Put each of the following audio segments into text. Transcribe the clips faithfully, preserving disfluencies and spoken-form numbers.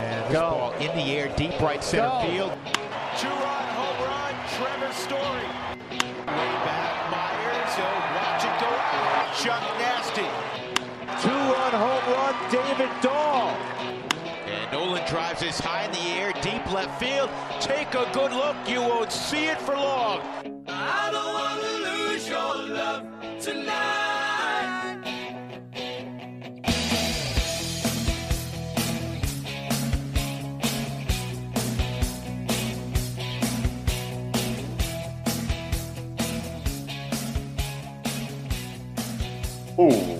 And this Go. ball in the air, deep right center Go. field. Two-run home run, Trevor Story. Way back, Myers, he'll watch it go out. Chuck Nasty. Two-run home run, David Dahl. And Nolan drives this high in the air, deep left field. Take a good look, you won't see it for long. I don't want to lose your love tonight. Ooh.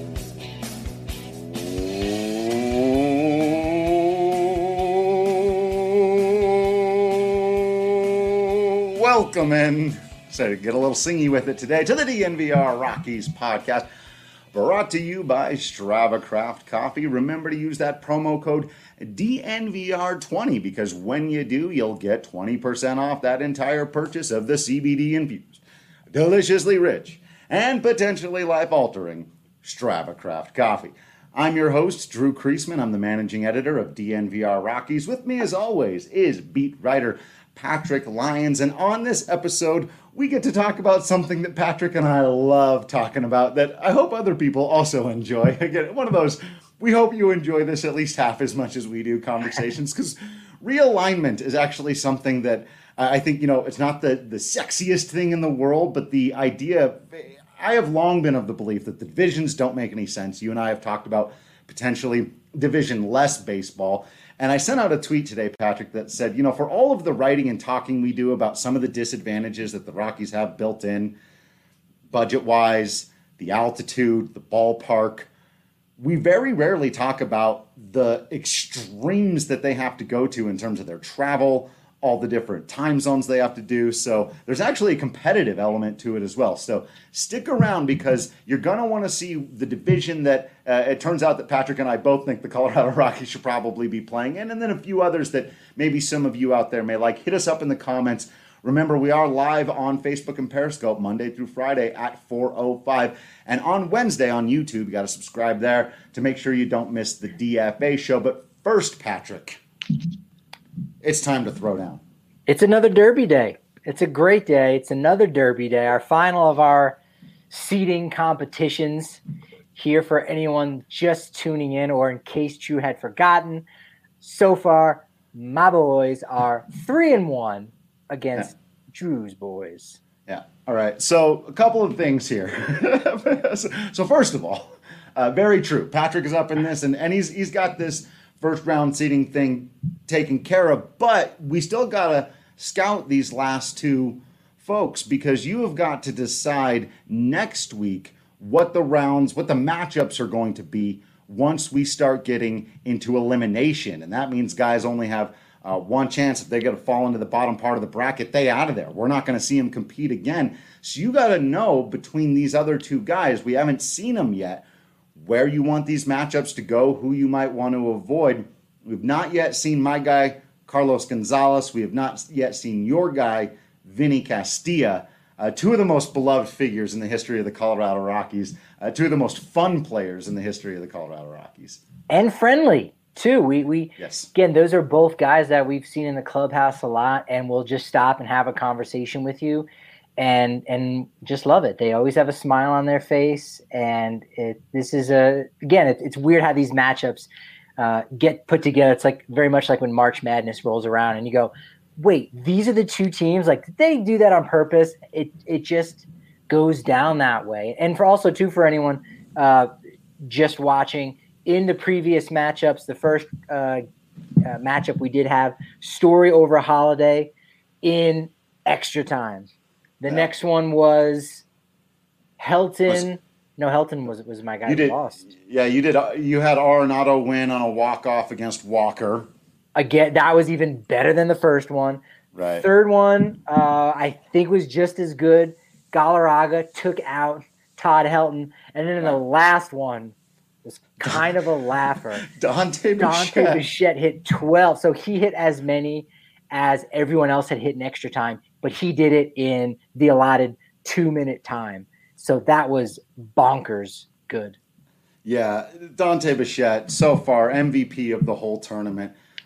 Welcome in. So to get a little singy with it today to the D N V R Rockies podcast, brought to you by Strava Craft Coffee. Remember to use that promo code D N V R twenty because when you do, you'll get twenty percent off that entire purchase of the C B D infused, deliciously rich, and potentially life-altering Strava Craft Coffee. I'm your host, Drew Kreisman. I'm the managing editor of D N V R Rockies. With me, as always, is beat writer Patrick Lyons. And on this episode, we get to talk about something that Patrick and I love talking about that I hope other people also enjoy. Again, one of those, we hope you enjoy this at least half as much as we do conversations, because realignment is actually something that uh, I think, you know, it's not the, the sexiest thing in the world, but the idea... I have long been of the belief that the divisions don't make any sense. You and I have talked about potentially division-less baseball. And I sent out a tweet today, Patrick, that said, you know, for all of the writing and talking we do about some of the disadvantages that the Rockies have built in, budget-wise, the altitude, the ballpark, we very rarely talk about the extremes that they have to go to in terms of their travel, all the different time zones they have to do. So there's actually a competitive element to it as well. So stick around because you're going to want to see the division that uh, it turns out that Patrick and I both think the Colorado Rockies should probably be playing in, and then a few others that maybe some of you out there may like. Hit us up in the comments. Remember, we are live on Facebook and Periscope Monday through Friday at four oh five. And on Wednesday on YouTube, you got to subscribe there to make sure you don't miss the D F A show. But first, Patrick, it's time to throw down. It's another Derby day. It's a great day. It's another Derby day, our final of our seeding competitions here for anyone just tuning in or in case you had forgotten. So far, my boys are three and one against yeah. Drew's boys. Yeah. All right. So a couple of things here. so, so first of all, uh, very true. Patrick is up in this, and, and he's he's got this first round seeding thing taken care of, but we still got to scout these last two folks because you have got to decide next week what the rounds, what the matchups are going to be once we start getting into elimination. And that means guys only have uh, one chance. If they got to fall into the bottom part of the bracket, they out of there. We're not going to see them compete again. So you got to know between these other two guys, we haven't seen them yet, where you want these matchups to go, who you might want to avoid. We've not yet seen my guy, Carlos Gonzalez. We have not yet seen your guy, Vinny Castilla. Uh, two of the most beloved figures in the history of the Colorado Rockies. Uh, two of the most fun players in the history of the Colorado Rockies. And friendly, too. We, we yes. Again, those are both guys that we've seen in the clubhouse a lot, and we'll just stop and have a conversation with you. And and just love it. They always have a smile on their face, and it this is a again. It, it's weird how these matchups uh, get put together. It's like very much like when March Madness rolls around, and you go, "Wait, these are the two teams. Like, did they do that on purpose?" It it just goes down that way. And for also too for anyone uh, just watching in the previous matchups, the first uh, uh, matchup we did have Story over Holiday in extra time. The yeah. next one was Helton. Was, no, Helton was was my guy you who did, lost. Yeah, you did. You had Arenado win on a walk-off against Walker. Again, that was even better than the first one. Right. Third one, uh, I think was just as good. Galarraga took out Todd Helton. And then in the last one was kind of a laugher. Dante Bichette. Dante Bichette hit twelve. So he hit as many as everyone else had hit in extra time, but he did it in the allotted two-minute time. So that was bonkers good. Yeah, Dante Bichette, so far, M V P of the whole tournament.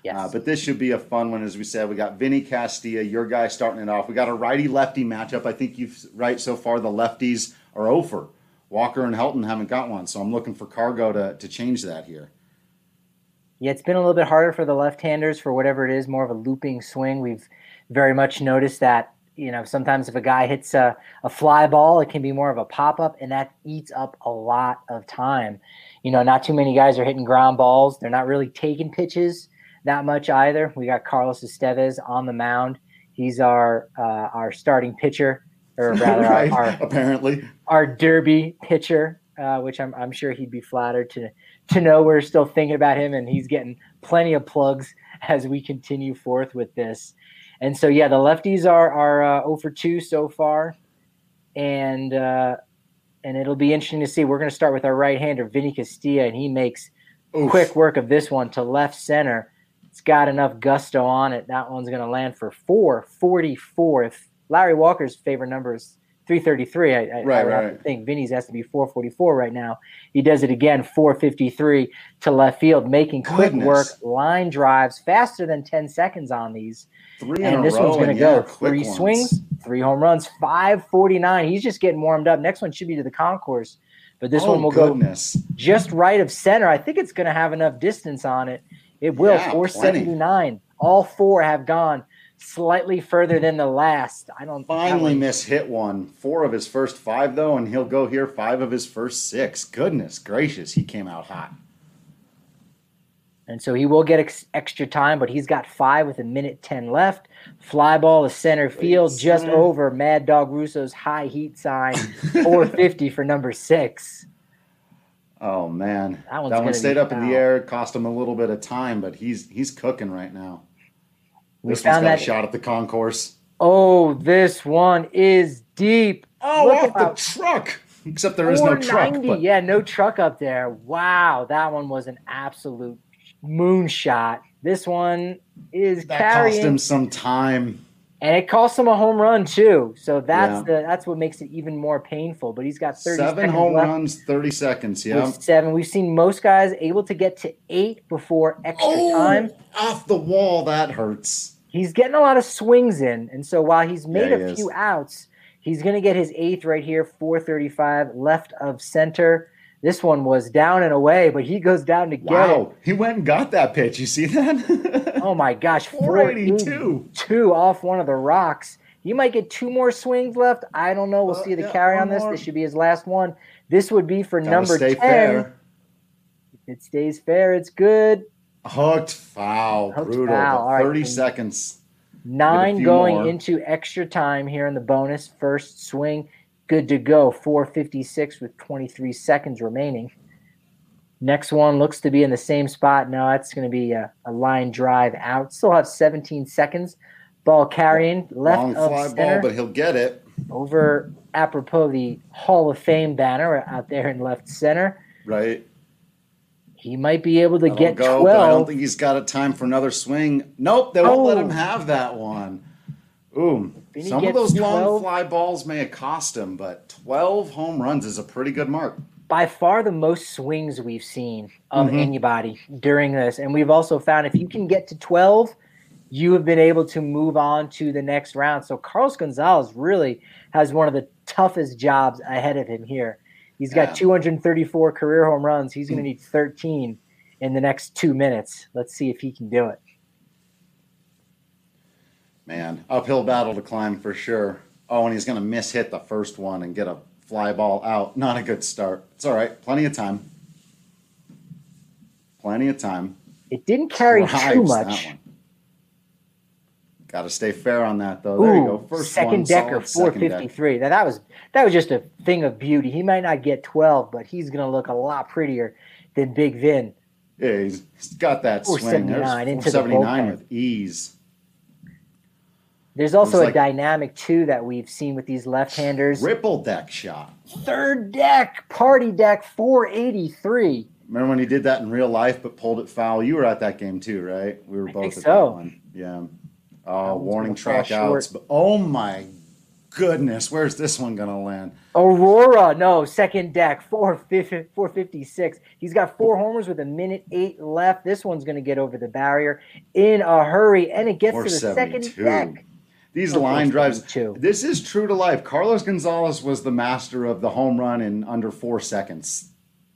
Yes. Uh, but this should be a fun one, as we said. We got Vinny Castilla, your guy, starting it off. We got a righty-lefty matchup. I think you've right so far. The lefties are over. Walker and Helton haven't got one, so I'm looking for Cargo to, to change that here. Yeah, it's been a little bit harder for the left-handers for whatever it is, more of a looping swing. We've very much noticed that, you know, sometimes if a guy hits a, a fly ball, it can be more of a pop-up, and that eats up a lot of time. You know, not too many guys are hitting ground balls. They're not really taking pitches that much either. We got Carlos Estevez on the mound. He's our uh, our starting pitcher, or rather right, our, our apparently our derby pitcher, uh, which I'm I'm sure he'd be flattered to to know we're still thinking about him, and he's getting plenty of plugs as we continue forth with this. And so, yeah, the lefties are are uh, oh for two so far, and uh, and it'll be interesting to see. We're going to start with our right-hander, Vinny Castilla, and he makes Oof. quick work of this one to left center. It's got enough gusto on it. That one's going to land for four forty-four. If Larry Walker's favorite number is three thirty-three, I, I, right, I right. think Vinny's has to be four forty-four right now. He does it again, four fifty-three to left field, making quick Goodness. work, line drives, faster than ten seconds on these. Three and in this a row, one's going to yeah, go three ones. swings, three home runs, five forty-nine. He's just getting warmed up. Next one should be to the concourse, but this oh, one will goodness. go just right of center. I think it's going to have enough distance on it. It will, yeah, four seventy-nine. All four have gone slightly further than the last. I don't finally miss hit one. Four of his first five, though, and he'll go here five of his first six. Goodness gracious, he came out hot. And so he will get ex- extra time, but he's got five with a minute ten left. Fly ball to center field, Wait, just center. over Mad Dog Russo's high heat sign, four fifty for number six. Oh man, that, one's that one stayed up foul. in the air. It cost him a little bit of time, but he's he's cooking right now. We this one's found got that a shot at the concourse. Oh, this one is deep. Oh, Look off the truck. Except there is no truck. But... Yeah, no truck up there. Wow, that one was an absolute moonshot. This one is that carrying. cost him some time. And it cost him a home run too. So that's yeah. the that's what makes it even more painful. But he's got thirty seven seconds home left runs, thirty seconds. Yeah, seven. We've seen most guys able to get to eight before extra oh, time. Off the wall, that hurts. He's getting a lot of swings in, and so while he's made yeah, a he few is. outs, he's going to get his eighth right here, four thirty-five left of center. This one was down and away, but he goes down to get wow. it. He went and got that pitch. You see that? Oh my gosh, four eighty-two. Two off one of the rocks. He might get two more swings left. I don't know. We'll uh, see the yeah, carry on this. more. This should be his last one. This would be for Gotta number stay ten. Fair. If it stays fair, it's good. Hooked foul. Hooked Brutal. foul. All right. thirty seconds. Nine going more. into extra time here in the bonus. First swing, good to go. four fifty-six with twenty-three seconds remaining. Next one looks to be in the same spot. No, that's going to be a, a line drive out. Still have seventeen seconds. Ball carrying left Long of fly center. ball, but he'll get it. Over, apropos the Hall of Fame banner out there in left center. Right. He might be able to That'll get go, twelve. But I don't think he's got a time for another swing. Nope, they won't Oh. let him have that one. Ooh, Vinny some of gets those long twelve. fly balls may have cost him, but twelve home runs is a pretty good mark. By far the most swings we've seen of Mhm. anybody during this. And we've also found if you can get to twelve, you have been able to move on to the next round. So Carlos Gonzalez really has one of the toughest jobs ahead of him here. He's got Yeah. two hundred thirty-four career home runs. He's going to need thirteen in the next two minutes. Let's see if he can do it. Man, uphill battle to climb for sure. Oh, and he's going to miss hit the first one and get a fly ball out. Not a good start. It's all right. Plenty of time. Plenty of time. It didn't carry too Drives that much. one. Got to stay fair on that, though. There Ooh, you go. First second one, decker, solid four second deck. fifty-three. Now that was that was just a thing of beauty. He might not get twelve, but he's going to look a lot prettier than Big Vin. Yeah, he's, he's got that swing. There's four seventy-nine into the four seventy-nine bullpen. with ease. There's also It was a like- dynamic, too, that we've seen with these left-handers. Ripple deck shot. Third deck, party deck, four eighty-three. Remember when he did that in real life but pulled it foul? You were at that game too, right? We were both think at so. that one. Yeah. Oh, one's warning gonna fall track outs. short. But oh my goodness, where's this one going to land? Aurora, no, second deck, four fifty-six. He's got four homers with a minute eight left. This one's going to get over the barrier in a hurry, and it gets to the second deck. These line drives, this is true to life. Carlos Gonzalez was the master of the home run in under four seconds.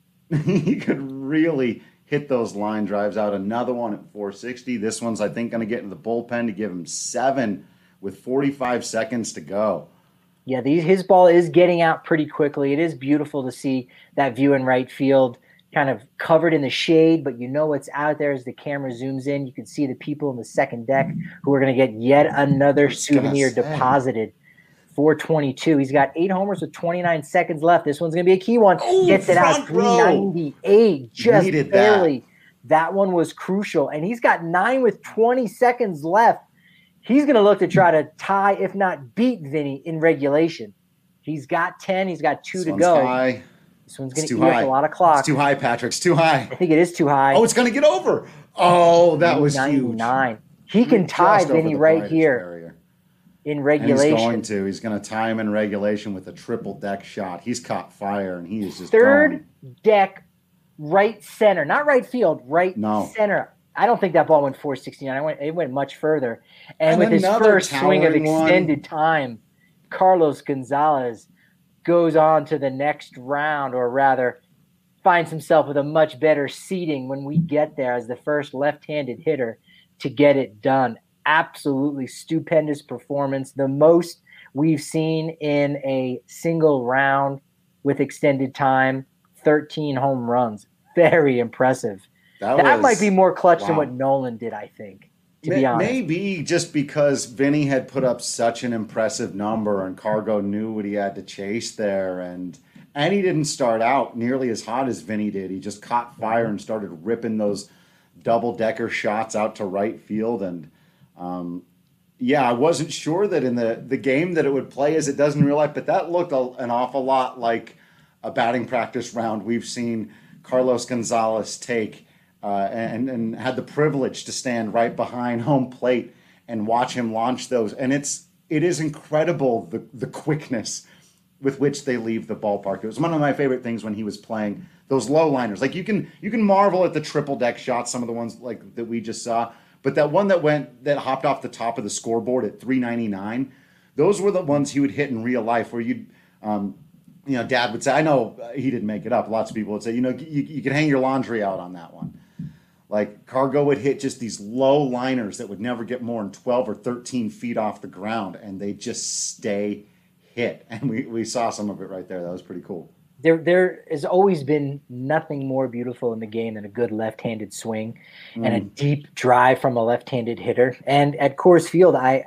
He could really hit those line drives out. Another one at four sixty. This one's, I think, going to get into the bullpen to give him seven with forty-five seconds to go. Yeah, these, his ball is getting out pretty quickly. It is beautiful to see that view in right field, kind of covered in the shade, but you know what's out there as the camera zooms in. You can see the people in the second deck who are going to get yet another souvenir deposited. four twenty-two. He's got eight homers with twenty-nine seconds left. This one's going to be a key one. Ooh, Gets it out three ninety-eight. Just Needed barely. That. that one was crucial. And he's got nine with twenty seconds left. He's going to look to try to tie, if not beat, Vinny in regulation. He's got ten. He's got two this to one's go. High. This one's going to eat up a lot of clock. It's too high, Patrick. It's too high. I think it is too high. Oh, it's going to get over. Oh, that was huge. He can tie Vinny right here barrier. in regulation. And he's going to. He's going to tie him in regulation with a triple deck shot. He's caught fire, and he is just Third going. deck, right center. Not right field, right no. center. I don't think that ball went four sixty-nine. It went, it went much further. And, and with his first swing of extended one. time, Carlos Gonzalez goes on to the next round, or rather finds himself with a much better seating when we get there as the first left-handed hitter to get it done. Absolutely stupendous performance. The most we've seen in a single round with extended time, thirteen home runs. Very impressive. That, that was, might be more clutch wow. than what Nolan did, I think, to May, be honest. Maybe just because Vinny had put up such an impressive number and Cargo knew what he had to chase there. And and he didn't start out nearly as hot as Vinny did. He just caught fire and started ripping those double-decker shots out to right field. And, um, yeah, I wasn't sure that in the, the game that it would play as it does in real life, but that looked a, an awful lot like a batting practice round we've seen Carlos Gonzalez take. Uh, and, and had the privilege to stand right behind home plate and watch him launch those. And it's it is incredible the the quickness with which they leave the ballpark. It was one of my favorite things when he was playing those low liners. Like you can you can marvel at the triple deck shots, some of the ones like that we just saw, but that one that went that hopped off the top of the scoreboard at three ninety-nine, those were the ones he would hit in real life where you'd um, you know, Dad would say, I know he didn't make it up. Lots of people would say, you know, you, you can hang your laundry out on that one. Like Cargo would hit just these low liners that would never get more than twelve or thirteen feet off the ground, and they just stay hit. And we, we saw some of it right there. That was pretty cool. There there has always been nothing more beautiful in the game than a good left-handed swing mm. and a deep drive from a left-handed hitter. And at Coors Field, I,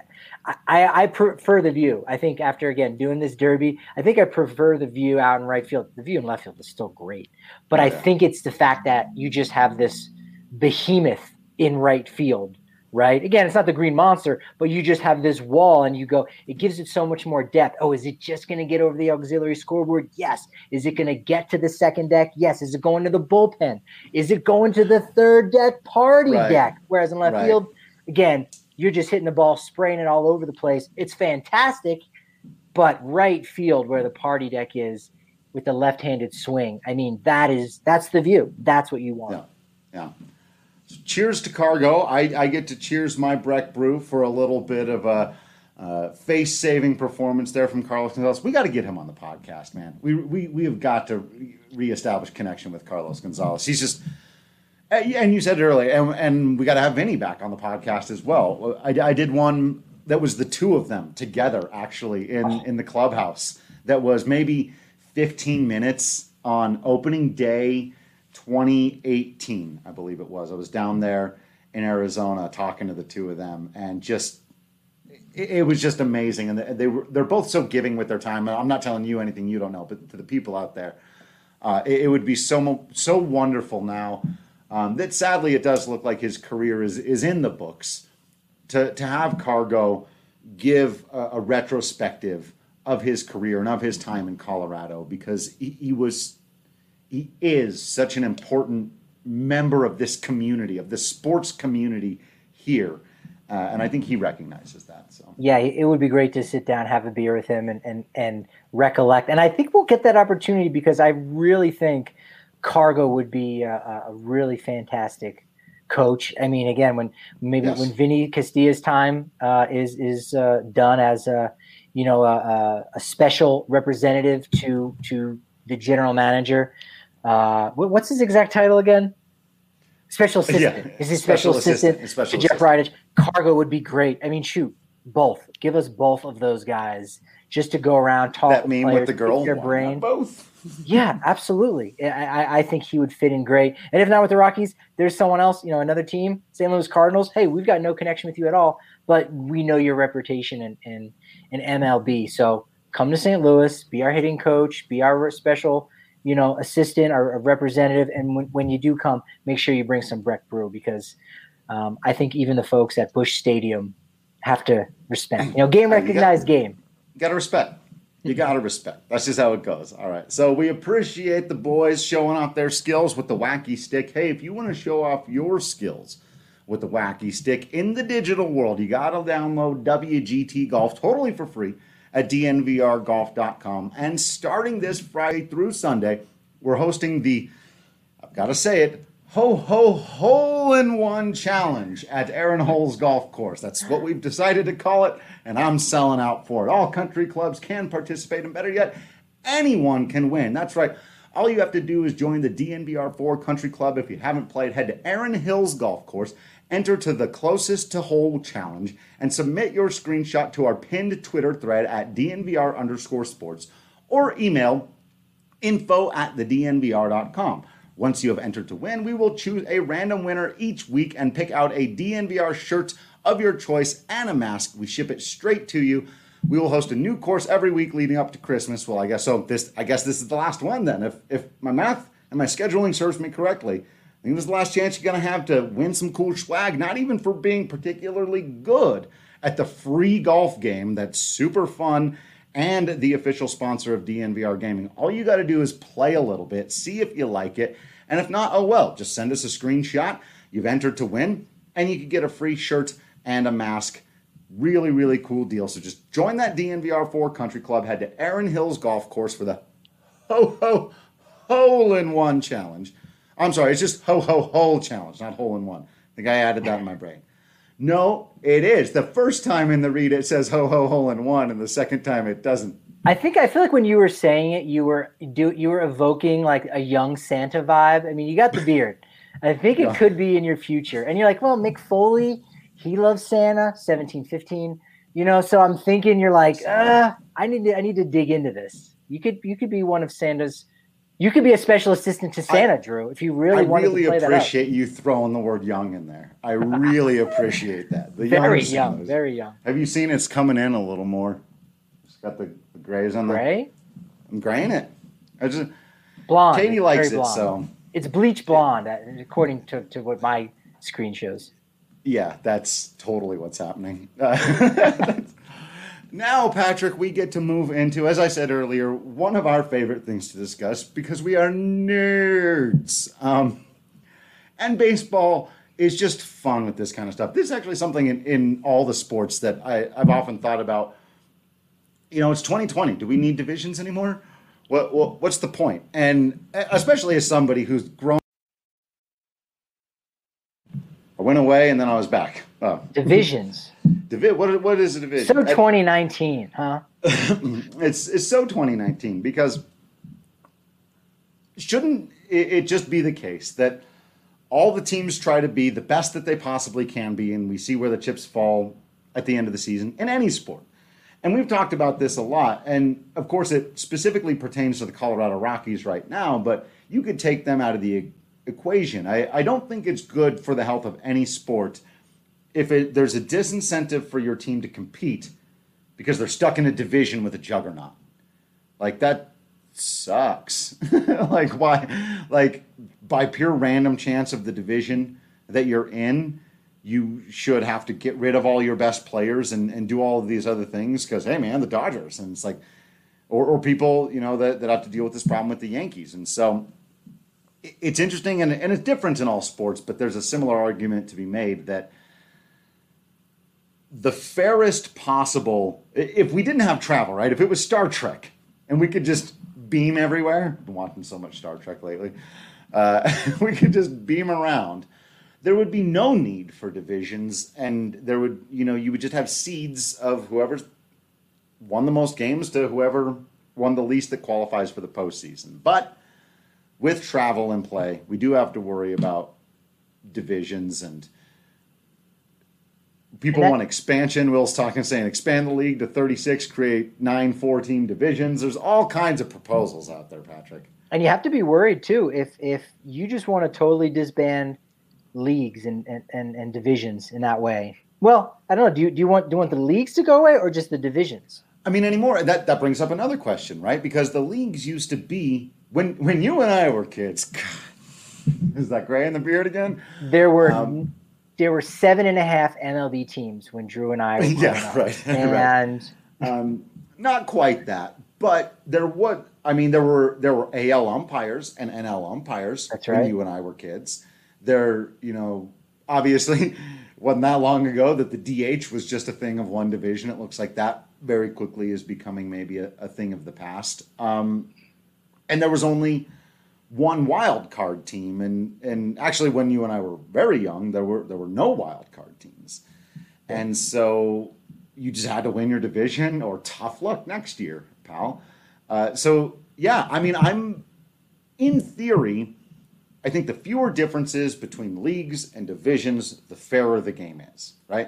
I I prefer the view. I think after, again, doing this derby, I think I prefer the view out in right field. The view in left field is still great. But oh, yeah. I think it's the fact that you just have this behemoth in right field, right? Again, it's not the Green Monster, but you just have this wall and you go, it gives it so much more depth. Oh, is it just going to get over the auxiliary scoreboard? Yes. Is it going to get to the second deck? Yes. Is it going to the bullpen? Is it going to the third deck party right. deck? Whereas in left right. field, again, you're just hitting the ball, spraying it all over the place. It's fantastic, but right field where the party deck is with the left-handed swing, I mean, that is, that's the view. That's what you want. Yeah. Yeah. So cheers to Cargo. I, I get to cheers my Breck Brew for a little bit of a uh, face-saving performance there from Carlos Gonzalez. We got to get him on the podcast, man. We we we have got to re- reestablish connection with Carlos Gonzalez. He's just, and you said it earlier, and, and we got to have Vinny back on the podcast as well. I, I did one that was the two of them together, actually, in, in the clubhouse. That was maybe fifteen minutes on opening day twenty eighteen, I believe it was. I was down there in Arizona talking to the two of them, and just it, it was just amazing. And they, they were they're both so giving with their time. I'm not telling you anything you don't know, but to the people out there, uh, it, it would be so so wonderful now um, that sadly it does look like his career is is in the books. To to have Cargo give a, a retrospective of his career and of his time in Colorado, because he, he was. He is such an important member of this community, of the sports community here. Uh, and I think he recognizes that. So yeah, it would be great to sit down, have a beer with him, and and and recollect. And I think we'll get that opportunity because I really think Cargo would be a, a really fantastic coach. I mean, again, when maybe yes. when Vinny Castilla's time uh, is is uh, done as a you know a, a special representative to to the general manager. Uh, what's his exact title again? Special assistant. Yeah. Is he special, special assistant, assistant special to Jeff Bridich? Cargo would be great. I mean, shoot, both. Give us both of those guys just to go around, talk that with meme players, with the girl. their brain. Both. Yeah, absolutely. I, I think he would fit in great. And if not with the Rockies, there's someone else, you know, another team, Saint Louis Cardinals. Hey, we've got no connection with you at all, but we know your reputation in, in, in M L B. So come to Saint Louis, be our hitting coach, be our special, you know, assistant or a representative. And when, when you do come, make sure you bring some Breck Brew because um, I think even the folks at Busch Stadium have to respect. You know, game recognized you got, game. You got to respect. You got to respect. That's just how it goes. All right. So we appreciate the boys showing off their skills with the Wacky Stick. Hey, if you want to show off your skills with the Wacky Stick in the digital world, you got to download W G T Golf totally for free at D N V R golf dot com. And starting this Friday through Sunday, we're hosting the, I've got to say it, Ho Ho Hole-in-One Challenge at Aaron Hole's Golf Course. That's what we've decided to call it, and I'm selling out for it. All country clubs can participate, and better yet, anyone can win. That's right. All you have to do is join the D N V R four Country Club. If you haven't played, head to Aaron Hill's Golf Course, enter to the closest to hole challenge, and submit your screenshot to our pinned Twitter thread at DNVR underscore sports, or email info at the D N V R dot com. Once you have entered to win, we will choose a random winner each week and pick out a D N V R shirt of your choice and a mask. We ship it straight to you. We will host a new course every week leading up to Christmas. Well, I guess so. This, I guess this is the last one then. If if my math and my scheduling serves me correctly, I think this is the last chance you're going to have to win some cool swag, not even for being particularly good at the free golf game that's super fun and the official sponsor of D N V R Gaming. All you got to do is play a little bit, see if you like it, and if not, oh well, just send us a screenshot. You've entered to win, and you can get a free shirt and a mask. Really, really cool deal. So just join that D N V R four Country Club. Head to Aaron Hill's Golf Course for the Ho Ho Hole-in-One Challenge. I'm sorry, it's just Ho Ho Hole Challenge, not Hole-in-One. I think I added that in my brain. No, it is. The first time in the read it says Ho Ho Hole-in-One, and the second time it doesn't. I think I feel like when you were saying it, you were do you were evoking like a young Santa vibe. I mean, you got the beard. I think it could be in your future. And you're like, well, Mick Foley, he loves Santa, seventeen fifteen. You know, so I'm thinking you're like, uh, I need to I need to dig into this. You could you could be one of Santa's. You could be a special assistant to Santa, I, Drew, if you really I wanted really to play that. I really appreciate you throwing the word young in there. I really appreciate that. The very young, Santas. very young. Have you seen it's coming in a little more? It's got the, the grays on there. Gray? I'm graying it. I just blonde. Katie likes it, blonde. so it's bleach blonde, according to, to what my screen shows. Yeah, that's totally what's happening. Uh, now, Patrick, we get to move into, as I said earlier, one of our favorite things to discuss because we are nerds. Um, and baseball is just fun with this kind of stuff. This is actually something in, in all the sports that I, I've often thought about. You know, it's twenty twenty. Do we need divisions anymore? What, what what's the point? And especially as somebody who's grown. I went away and then I was back. Oh. Divisions. Divi- what, what is a division? So twenty nineteen, huh? it's it's so twenty nineteen because shouldn't it, it just be the case that all the teams try to be the best that they possibly can be, and we see where the chips fall at the end of the season in any sport. And we've talked about this a lot, and of course it specifically pertains to the Colorado Rockies right now, but you could take them out of the equation. I, I don't think it's good for the health of any sport if it, there's a disincentive for your team to compete because they're stuck in a division with a juggernaut. Like, that sucks. Like, why? Like, by pure random chance of the division that you're in, you should have to get rid of all your best players and, and do all of these other things because, hey, man, the Dodgers. And it's like, or, or people, you know, that, that have to deal with this problem with the Yankees. And so it's interesting and, and it's different in all sports, but there's a similar argument to be made that the fairest possible, if we didn't have travel, right? If it was Star Trek and we could just beam everywhere, I've been watching so much Star Trek lately, uh, we could just beam around, there would be no need for divisions, and there would, you know, you would just have seeds of whoever's won the most games to whoever won the least that qualifies for the postseason. But with travel in play, we do have to worry about divisions, and people and that, want expansion. Will's talking, saying expand the league to thirty-six, create nine four-team divisions. There's all kinds of proposals out there, Patrick. And you have to be worried, too, if if you just want to totally disband leagues and, and, and, and divisions in that way. Well, I don't know. Do you, do you want do you want the leagues to go away or just the divisions? I mean, anymore. That that brings up another question, right? Because the leagues used to be, when when you and I were kids, God, is that gray in the beard again? There were um, there were seven and a half M L B teams when Drew and I were growing yeah, up. right. And right. Um, not quite that, but there was. I mean, there were there were A L umpires and N L umpires That's when right. you and I were kids. There, you know, obviously wasn't that long ago that the D H was just a thing of one division. It looks like that very quickly is becoming maybe a, a thing of the past. Um, and there was only one wild card team, and and actually when you and I were very young, there were there were no wild card teams, and so you just had to win your division or tough luck next year, pal. Uh, so yeah, I mean, I'm in theory, I think the fewer differences between leagues and divisions, the fairer the game is, right?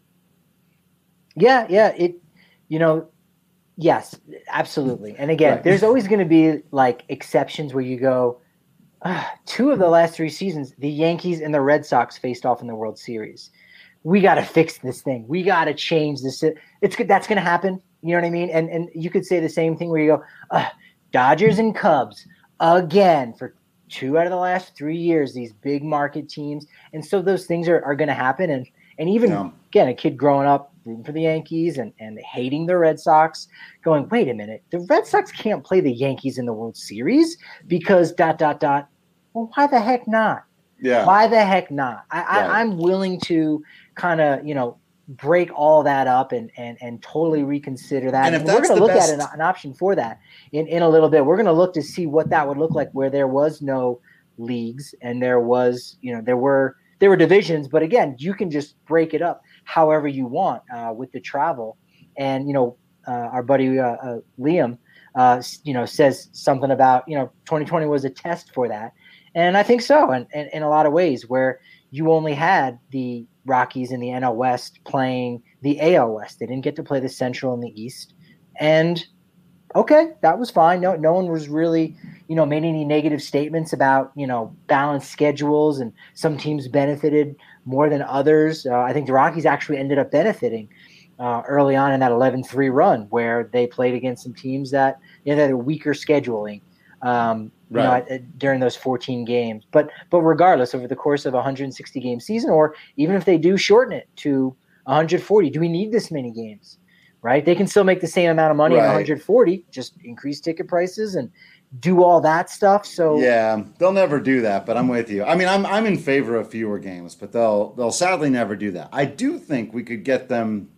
Yeah, yeah, it, you know, yes, absolutely. And again, Right. there's always going to be like exceptions where you go, ah, two of the last three seasons, the Yankees and the Red Sox faced off in the World Series. We got to fix this thing. We got to change this. It's good. That's going to happen. You know what I mean? And and you could say the same thing where you go, ah, Dodgers and Cubs again for two out of the last three years, these big market teams. And so those things are, are going to happen. And and even, Yeah. again, a kid growing up rooting for the Yankees and, and hating the Red Sox, going, wait a minute, the Red Sox can't play the Yankees in the World Series because dot, dot, dot. Well, why the heck not? Yeah. Why the heck not? I, Right. I, I'm willing to kind of, you know, break all that up and and and totally reconsider that. And if And we're that's going to the look best- at an, an option for that in, in a little bit. We're going to look to see what that would look like where there was no leagues and there was, you know, there were there were divisions, but again, you can just break it up however you want uh, with the travel. And you know, uh, our buddy uh, uh, Liam, uh, you know, says something about, you know, twenty twenty was a test for that, and I think so. And in, in, in a lot of ways, where you only had the Rockies in the N L West playing the A L West. They didn't get to play the Central and the East. And okay, that was fine. No, no one was really, you know, made any negative statements about, you know, balanced schedules and some teams benefited more than others. Uh, I think the Rockies actually ended up benefiting uh, early on in that eleven three run where they played against some teams that, you know, that are weaker scheduling. Um, You know, Right. at, at, during those fourteen games, but but regardless, over the course of a one hundred sixty game season, or even if they do shorten it to one hundred forty, do we need this many games? Right? They can still make the same amount of money Right. in one hundred forty, just increase ticket prices and do all that stuff. So Yeah, they'll never do that, but I'm with you. I mean, I'm I'm in favor of fewer games, but they'll they'll sadly never do that. I do think we could get them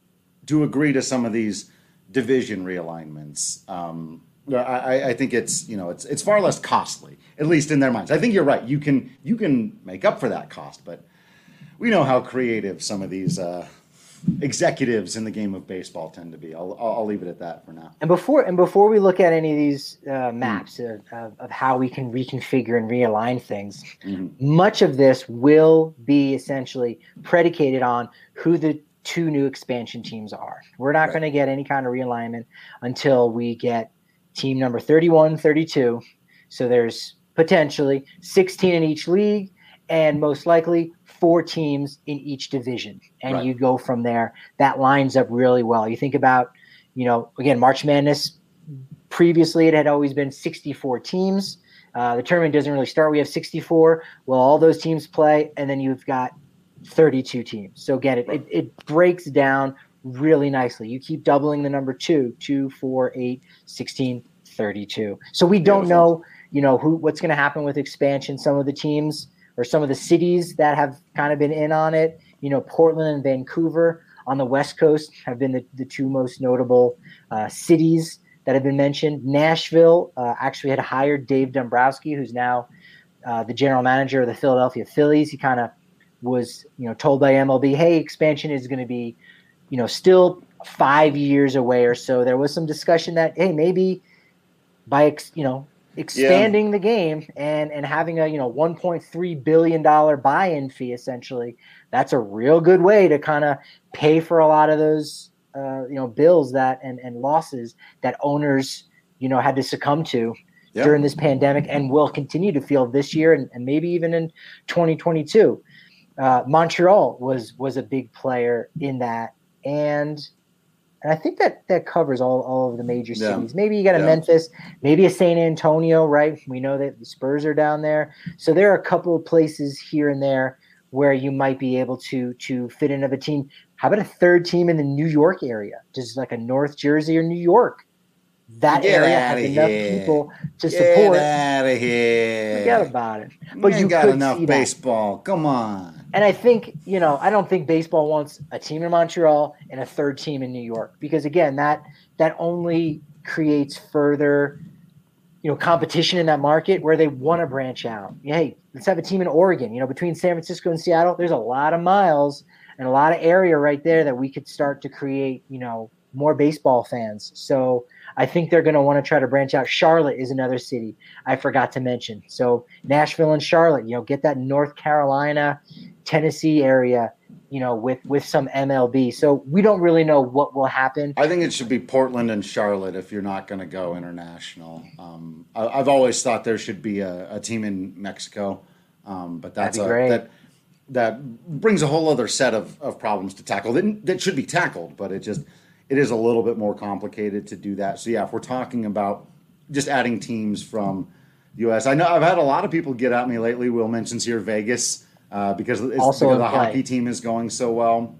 to agree to some of these division realignments. Um, I, I think it's, you know, it's it's far less costly, at least in their minds. I think you're right. You can you can make up for that cost, but we know how creative some of these uh, executives in the game of baseball tend to be. I'll I'll leave it at that for now. And before and before we look at any of these uh, maps of, of, of how we can reconfigure and realign things, Mhm. much of this will be essentially predicated on who the two new expansion teams are. We're not Right. going to get any kind of realignment until we get team number thirty-one, thirty-two. So there's potentially sixteen in each league and most likely four teams in each division. And Right. you go from there. That lines up really well. You think about, you know, again, March Madness, previously it had always been sixty-four teams. Uh, the tournament doesn't really start. We have sixty-four. Well, all those teams play, and then you've got thirty-two teams. So again, it, it, it breaks down really nicely. You keep doubling the number two, two, four, eight, sixteen, thirty-two. So we don't Beautiful. know, you know, who what's going to happen with expansion. Some of the teams or some of the cities that have kind of been in on it, you know, Portland and Vancouver on the West Coast have been the, the two most notable uh, cities that have been mentioned. Nashville uh, actually had hired Dave Dombrowski, who's now uh, the general manager of the Philadelphia Phillies. He kind of was, you know, told by M L B, hey, expansion is going to be, you know, still five years away or so. There was some discussion that, hey, maybe by, ex, you know, expanding yeah. the game and, and having a, you know, one point three billion dollars buy-in fee, essentially, that's a real good way to kind of pay for a lot of those, uh, you know, bills that and, and losses that owners, you know, had to succumb to yeah. during this pandemic and will continue to feel this year and, and maybe even in twenty twenty-two. Uh, Montreal was was a big player in that. And And I think that that covers all, all of the major cities. Yeah. Maybe you got a yeah. Memphis, maybe a San Antonio, right? We know that the Spurs are down there. So there are a couple of places here and there where you might be able to to fit in of a team. How about a third team in the New York area? Just like a North Jersey or New York. That Get area has enough here. people to Get support. Get out of here. Forget about it. But Man you got could enough see baseball. That. Come on. And I think, you know, I don't think baseball wants a team in Montreal and a third team in New York because, again, that that only creates further, you know, competition in that market where they want to branch out. Hey, let's have a team in Oregon. You know, between San Francisco and Seattle, there's a lot of miles and a lot of area right there that we could start to create, you know, more baseball fans. So I think they're going to want to try to branch out. Charlotte is another city I forgot to mention. So Nashville and Charlotte, you know, get that North Carolina, Tennessee area, you know, with, with some M L B. So we don't really know what will happen. I think it should be Portland and Charlotte if you're not going to go international. Um, I, I've always thought there should be a, a team in Mexico, um, but that's a, that that brings a whole other set of, of problems to tackle that, that should be tackled, but it just – it is a little bit more complicated to do that. So, yeah, if we're talking about just adding teams from the U S, I know I've had a lot of people get at me lately. Will mentions here Vegas uh, because, it's, because the play. hockey team is going so well.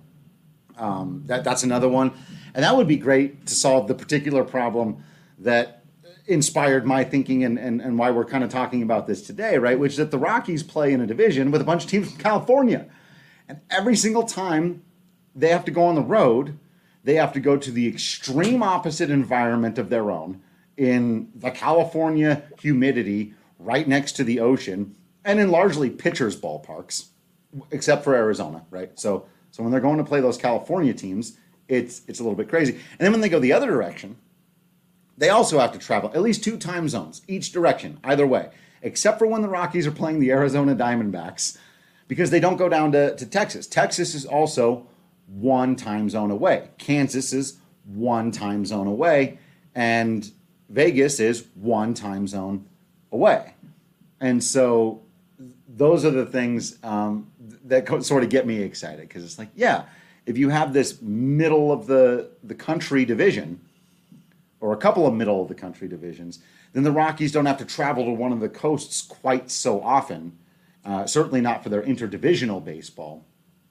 Um, that That's another one. And that would be great to solve the particular problem that inspired my thinking and, and, and why we're kind of talking about this today, right? Which is that the Rockies play in a division with a bunch of teams from California. And every single time they have to go on the road, they have to go to the extreme opposite environment of their own in the California humidity right next to the ocean and in largely pitchers' ballparks, except for Arizona, right? So so when they're going to play those California teams, it's it's a little bit crazy. And then when they go the other direction, they also have to travel at least two time zones each direction, either way, except for when the Rockies are playing the Arizona Diamondbacks because they don't go down to, to Texas. Texas is also one time zone away. Kansas is one time zone away, and Vegas is one time zone away. And so those are the things um, that co- sort of get me excited because it's like, yeah, if you have this middle of the, the country division or a couple of middle of the country divisions, then the Rockies don't have to travel to one of the coasts quite so often, uh, certainly not for their interdivisional baseball.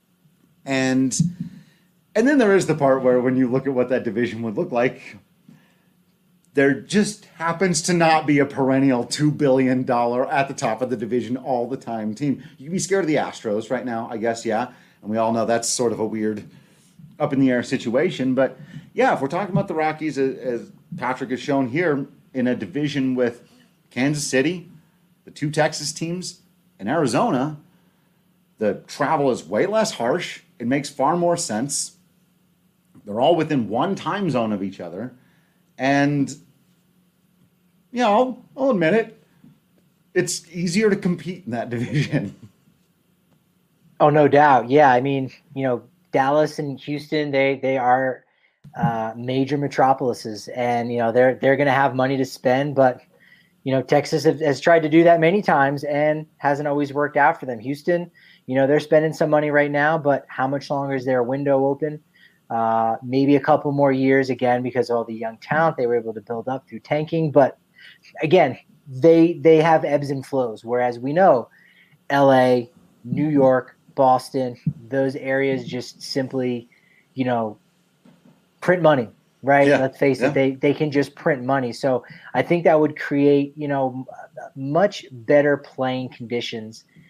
And and then there is the part where when you look at what that division would look like, there just happens to not be a perennial two billion dollars at the top of the division all the time team. You can be scared of the Astros right now, I guess, yeah. And we all know that's sort of a weird up in the air situation. But yeah, if we're talking about the Rockies, as Patrick has shown here, in a division with Kansas City, the two Texas teams, and Arizona, the travel is way less harsh. It makes far more sense. They're all within one time zone of each other. And, you know, I'll, I'll admit it, it's easier to compete in that division. Oh, no doubt. Yeah, I mean, you know, Dallas and Houston, they they are uh, major metropolises. And, you know, they're, they're going to have money to spend. But, you know, Texas have, has tried to do that many times and hasn't always worked out for them. Houston, you know, they're spending some money right now, but how much longer is their window open? Uh, maybe a couple more years, again, because of all the young talent they were able to build up through tanking. But, again, they they have ebbs and flows, whereas we know L A, New York, Boston, those areas just simply, you know, print money, right? Yeah. Let's face yeah. it, they, they can just print money. So I think that would create, you know, much better playing conditions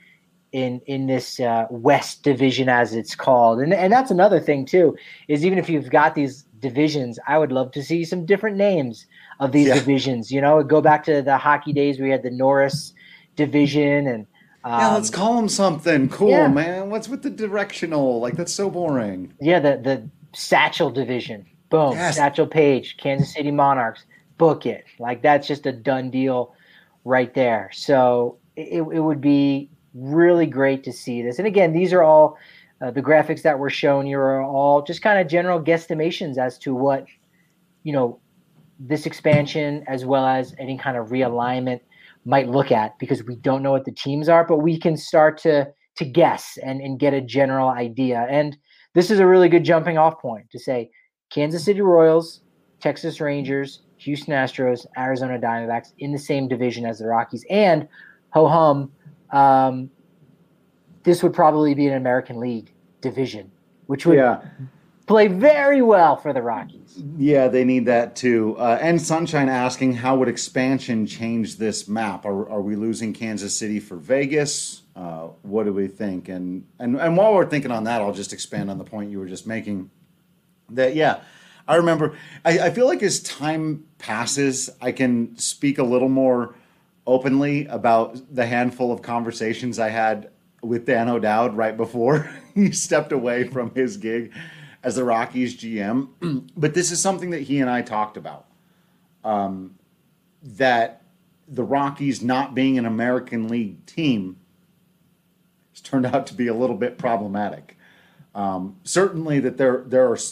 in in this uh, West Division, as it's called. And and that's another thing too, is even if you've got these divisions, I would love to see some different names of these yeah. divisions. You know, go back to the hockey days where we had the Norris division and um, yeah, let's call them something cool, yeah. man. What's with the directional? Like, that's so boring. Yeah, the the Satchel division. Boom, yes. Satchel Paige, Kansas City Monarchs. Book it. Like, that's just a done deal right there. So it, it would be really great to see this. And again, these are all uh, the graphics that were shown here are all just kind of general guesstimations as to what, you know, this expansion as well as any kind of realignment might look at, because we don't know what the teams are, but we can start to to guess and, and get a general idea. And this is a really good jumping off point to say Kansas City Royals, Texas Rangers, Houston Astros, Arizona Diamondbacks in the same division as the Rockies. And ho-hum, um, this would probably be an American League division, which would yeah. play very well for the Rockies. Yeah, they need that too. Uh, and Sunshine asking, how would expansion change this map? Are, are we losing Kansas City for Vegas? Uh, what do we think? And, and and while we're thinking on that, I'll just expand on the point you were just making. That, yeah, I remember, I, I feel like as time passes, I can speak a little more openly about the handful of conversations I had with Dan O'Dowd right before he stepped away from his gig as the Rockies G M. But this is something that he and I talked about, um, that the Rockies not being an American League team has turned out to be a little bit problematic. Um, certainly that there there are,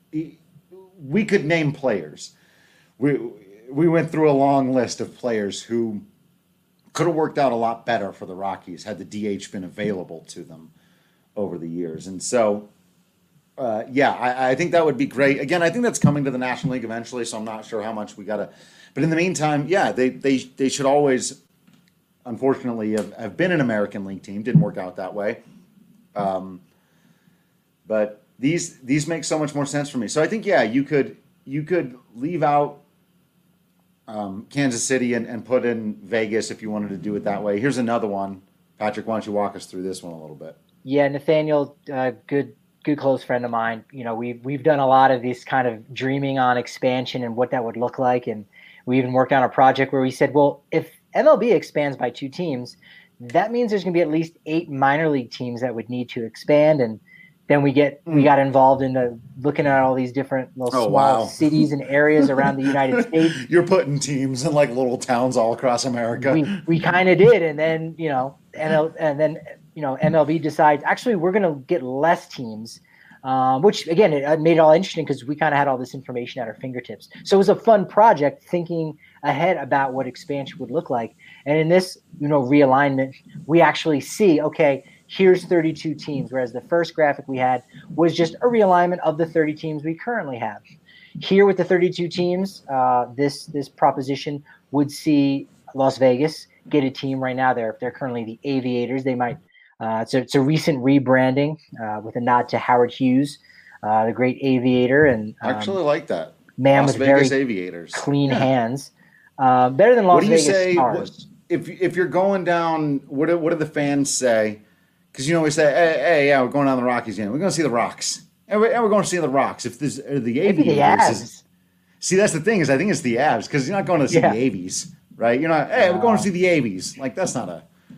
we could name players. We we went through a long list of players who could have worked out a lot better for the Rockies had the D H been available to them over the years. And so, uh, yeah, I, I think that would be great. Again, I think that's coming to the National League eventually, so I'm not sure how much we got to. But in the meantime, yeah, they they they should always, unfortunately, have, have been an American League team. Didn't work out that way. Um, but these these make so much more sense for me. So I think, yeah, you could you could leave out Um, Kansas City and, and put in Vegas if you wanted to do it that way. Here's another one. Patrick, why don't you walk us through this one a little bit? Yeah, Nathaniel, uh, good good close friend of mine. You know, we've, we've done a lot of this kind of dreaming on expansion and what that would look like. And we even worked on a project where we said, well, if M L B expands by two teams, that means there's going to be at least eight minor league teams that would need to expand. And then we get we got involved in the, looking at all these different little oh, small wow. cities and areas around the United States. You're putting teams in like little towns all across America. We we kind of did, and then you know, and and then you know, M L B decides actually we're going to get less teams, um, which again it made it all interesting because we kind of had all this information at our fingertips. So it was a fun project thinking ahead about what expansion would look like. And in this you know realignment, we actually see okay. Here's thirty-two teams, whereas the first graphic we had was just a realignment of the thirty teams we currently have. Here with the thirty-two teams, uh, this this proposition would see Las Vegas get a team right now. They're they're currently the Aviators. They might uh, it's a it's a recent rebranding uh, with a nod to Howard Hughes, uh, the great aviator, and um, I actually like that man Las with Vegas very Aviators. clean yeah. hands. Uh, better than Las what do you Vegas say, Stars. What, if if you're going down, what do, what do the fans say? Because, you know, we say, hey, hey, yeah, we're going down the Rockies again. We're going to see the Rocks. And we're, and we're going to see the Rocks. If this are the Maybe the Aviators. Avs. See, that's the thing is I think it's the Avs because you're not going to see Yeah. the Avies, right? You're not, hey, we're going to see the Avies. Like, that's not a.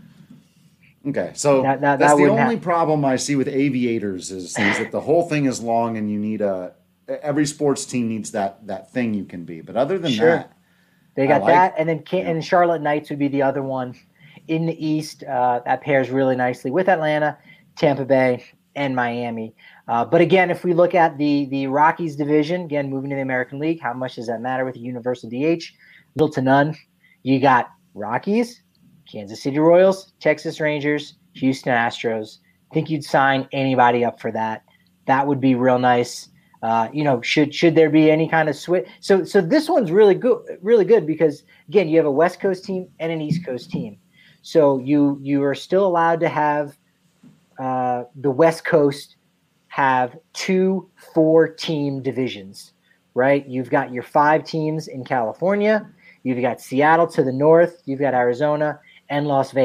Okay, so That- that- that's that the wouldn't only happen. problem I see with Aviators is, is that the whole thing is long and you need a. Every sports team needs that that thing you can be. But other than Sure. that. They got I like- that, and then Can- and Charlotte Knights would be the other one in the East. Uh, that pairs really nicely with Atlanta, Tampa Bay, and Miami. Uh, but again, if we look at the the Rockies division, again moving to the American League, how much does that matter with the universal D H? Little to none. You got Rockies, Kansas City Royals, Texas Rangers, Houston Astros. I think you'd sign anybody up for that. That would be real nice. Uh, you know, should should there be any kind of switch? So so this one's really good, really good because again, you have a West Coast team and an East Coast team. So you you are still allowed to have uh, the West Coast have two four-team divisions, right? You've got your five teams in California. You've got Seattle to the north. You've got Arizona and Las Vegas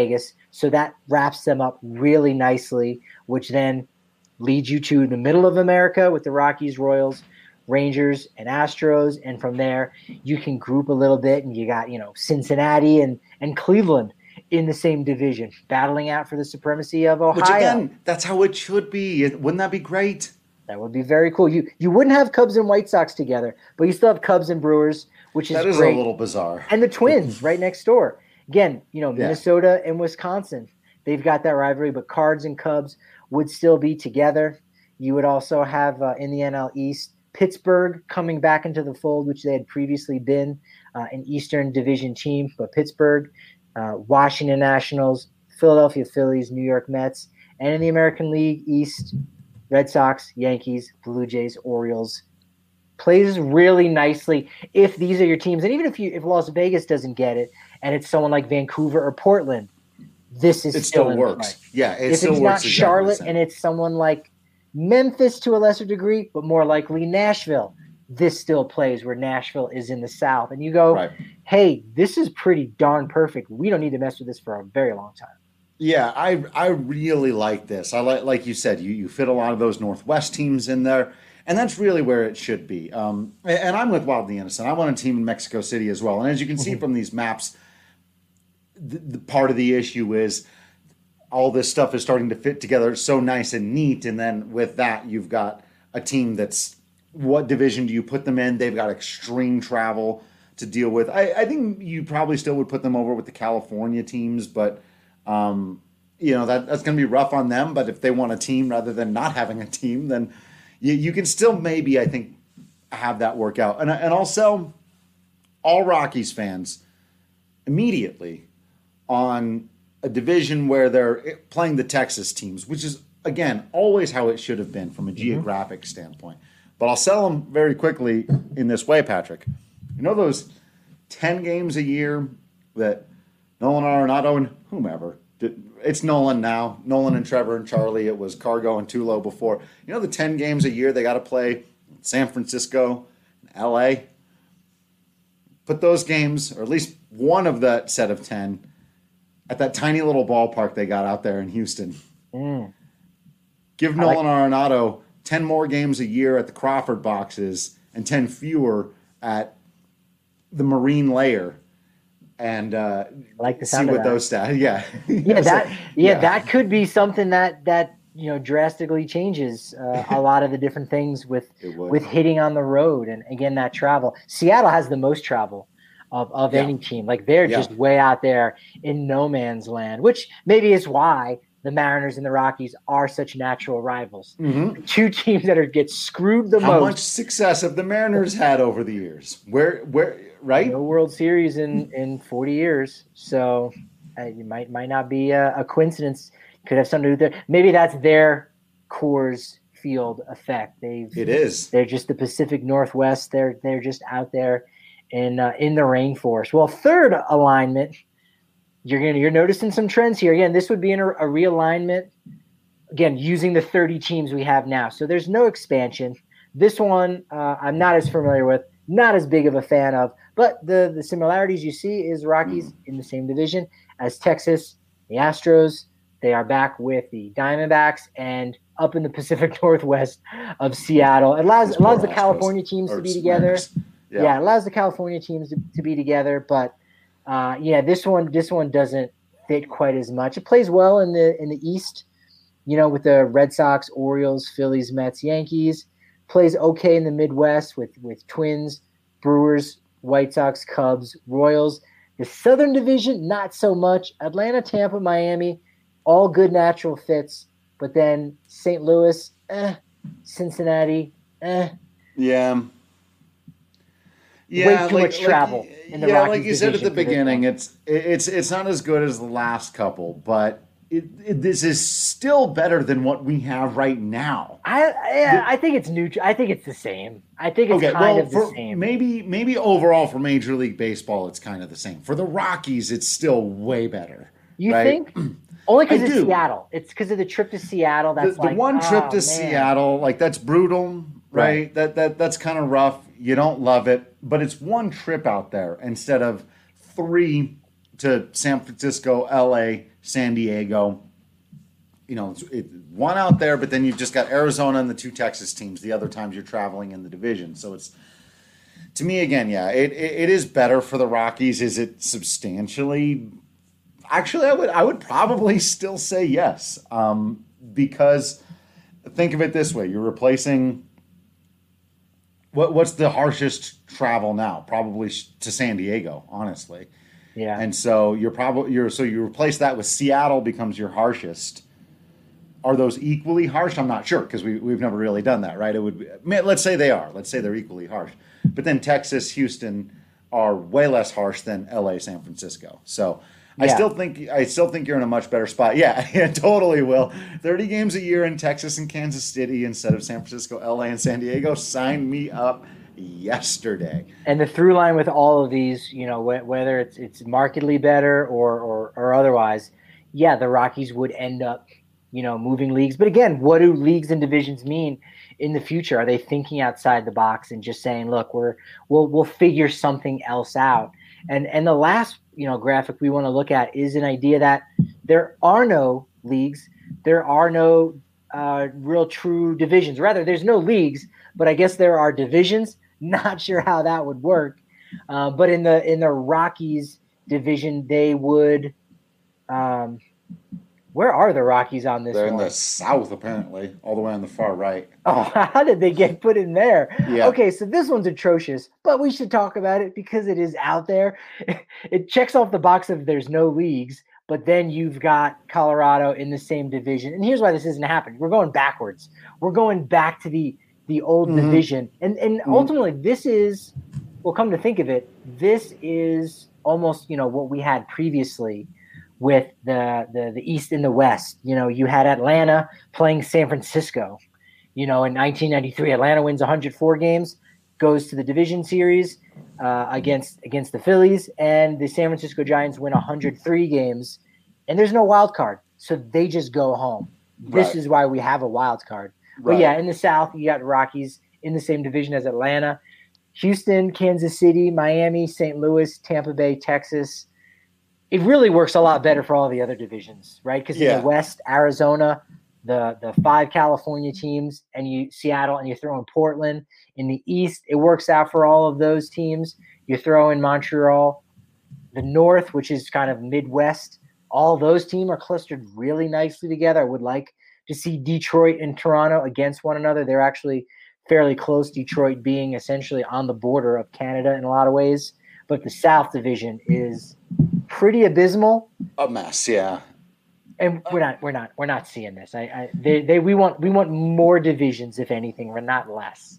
So that wraps them up really nicely, which then leads you to the middle of America with the Rockies, Royals, Rangers, and Astros. And from there, you can group a little bit, and you got, you know, Cincinnati and, and Cleveland in the same division, battling out for the supremacy of Ohio. Which, again, that's how it should be. Wouldn't that be great? That would be very cool. You you wouldn't have Cubs and White Sox together, but you still have Cubs and Brewers, which is That is great. a little bizarre. And the Twins right next door. Again, you know, Yeah. Minnesota and Wisconsin, they've got that rivalry, but Cards and Cubs would still be together. You would also have uh, in the N L East, Pittsburgh coming back into the fold, which they had previously been uh, an Eastern Division team, but Pittsburgh, uh, Washington Nationals, Philadelphia Phillies, New York Mets, and in the American League East, Red Sox, Yankees, Blue Jays, Orioles. Plays really nicely if these are your teams. And even if you if Las Vegas doesn't get it and it's someone like Vancouver or Portland, this is It still, still in works. play. Yeah, it if still it's works. not exactly Charlotte the same. and it's someone like Memphis to a lesser degree, but more likely Nashville, this still plays where Nashville is in the South. And you go, Right. hey, this is pretty darn perfect. We don't need to mess with this for a very long time. Yeah, I I really like this. I like like you said, you you fit a lot of those Northwest teams in there, and that's really where it should be. Um, and and I'm with Wildly Innocent. I want a team in Mexico City as well. And as you can see from these maps, the, the part of the issue is all this stuff is starting to fit together so nice and neat. And then with that, you've got a team that's, what division do you put them in? They've got extreme travel to deal with. I, I think you probably still would put them over with the California teams, but um, you know, that, that's going to be rough on them. But if they want a team rather than not having a team, then you, you can still maybe, I think, have that work out. And, and also, all Rockies fans immediately on a division where they're playing the Texas teams, which is, again, always how it should have been from a geographic standpoint. But I'll sell them very quickly in this way, Patrick. You know those ten games a year that Nolan Arenado and whomever, it's Nolan now, Nolan and Trevor and Charlie, it was Cargo and Tulo before. You know the ten games a year they got to play San Francisco, L A? Put those games, or at least one of that set of ten, at that tiny little ballpark they got out there in Houston. Mm. Give I like- Nolan Arenado ten more games a year at the Crawford boxes and ten fewer at the Marine Layer, and uh, I like the see sound of what that. those stats. Yeah, Yeah, So, that yeah, that could be something that that you know drastically changes uh, a lot of the different things with It would. with hitting on the road and again that travel. Seattle has the most travel of, of Yeah. any team. Like they're Yeah. just way out there in no man's land, which maybe is why the Mariners and the Rockies are such natural rivals. Mhm. Two teams that are get screwed the How most. much success have the Mariners had over the years? Where, where, right? No World Series in, in forty years. So uh, it might might not be a, a coincidence. Could have something to do with it. Maybe that's their Coors Field effect. They've It is. they're just the Pacific Northwest. They're they're just out there in uh, in the rainforest. Well, third alignment, you're gonna you're noticing some trends here. Again, this would be in a, a realignment. Again, using the thirty teams we have now. So there's no expansion. This one uh, I'm not as familiar with, not as big of a fan of. But the the similarities you see is Rockies in the same division as Texas, the Astros. They are back with the Diamondbacks and up in the Pacific Northwest of Seattle. It allows, Those allows poor the Astros. California teams Or to be together. Mariners. Yeah. Yeah. it allows the California teams to, to be together. But uh, yeah, this one this one doesn't fit quite as much. It plays well in the in the East, you know, with the Red Sox, Orioles, Phillies, Mets, Yankees. Plays okay in the Midwest with with Twins, Brewers, White Sox, Cubs, Royals. The Southern Division, not so much. Atlanta, Tampa, Miami, all good natural fits. But then Saint Louis, eh. Cincinnati, eh. Yeah. Yeah, Way too much travel in the yeah, Rockies like you said at division the for this beginning, one. it's it's it's not as good as the last couple, but it, it, this is still better than what we have right now. I I, I think it's neutral. I think it's the same. I think it's Okay, kind well, of the for, same. maybe maybe overall for Major League Baseball, it's kind of the same. For the Rockies, it's still way better. You right? think? Only because I it's do. Seattle. It's because of the trip to Seattle. The, That's the like one trip oh, to man. Seattle, like that's brutal, right? Right. That that that's kind of rough. You don't love it, but it's one trip out there instead of three to San Francisco, L A, San Diego. You know, it's, it, one out there, but then you've just got Arizona and the two Texas teams the other times you're traveling in the division. So it's, to me, again, yeah, it, it, it is better for the Rockies. Is it substantially? Actually, I would I would probably still say yes, um, because think of it this way: you're replacing. What what's the harshest travel now? Probably to San Diego, honestly. Yeah. And so you're probably you're so you replace that with Seattle becomes your harshest. Are those equally harsh? I'm not sure because we we've never really done that, right? It would let's say they are. Let's say they're equally harsh. But then Texas, Houston are way less harsh than L A, San Francisco. So I yeah. still think I still think you're in a much better spot. Yeah, yeah, totally will. thirty games a year in Texas and Kansas City instead of San Francisco, L A, and San Diego. Sign me up yesterday. And the through line with all of these, you know, wh- whether it's it's markedly better or, or or otherwise, yeah, the Rockies would end up, you know, moving leagues. But again, what do leagues and divisions mean in the future? Are they thinking outside the box and just saying, look, we're we'll we'll figure something else out? And and the last, you know, graphic we want to look at is an idea that there are no leagues, there are no uh, real true divisions. Rather, there's no leagues, but I guess there are divisions. Not sure how that would work. Uh, but in the in the Rockies division, they would. Um, where are the Rockies on this They're one? in the south, apparently, all the way on the far right. Oh, how did they get put in there? Yeah. Okay, so this one's atrocious, but we should talk about it because it is out there. It checks off the box of there's no leagues, but then you've got Colorado in the same division. And here's why this isn't happening. We're going backwards. We're going back to the the old mm-hmm. division. And and mm-hmm. ultimately this is, well, come to think of it, this is almost, you know, what we had previously with the, the the East and the West. You know, you had Atlanta playing San Francisco. You know, in nineteen ninety-three, Atlanta wins one hundred four games, goes to the division series uh, against against the Phillies, and the San Francisco Giants win one hundred three games, and there's no wild card, so they just go home. This Right. is why we have a wild card. Right. But yeah, in the South, you got Rockies in the same division as Atlanta, Houston, Kansas City, Miami, Saint Louis, Tampa Bay, Texas. It really works a lot better for all the other divisions, right? Because Yeah. in the West, Arizona, the the five California teams, and you Seattle, and you throw in Portland. In the East, it works out for all of those teams. You throw in Montreal. The North, which is kind of Midwest, all those teams are clustered really nicely together. I would like to see Detroit and Toronto against one another. They're actually fairly close, Detroit being essentially on the border of Canada in a lot of ways. But the South Division is pretty abysmal. A mess, yeah. And we're not, we're not, we're not seeing this. I, I, they, they, we want, we want more divisions, if anything, we're not less.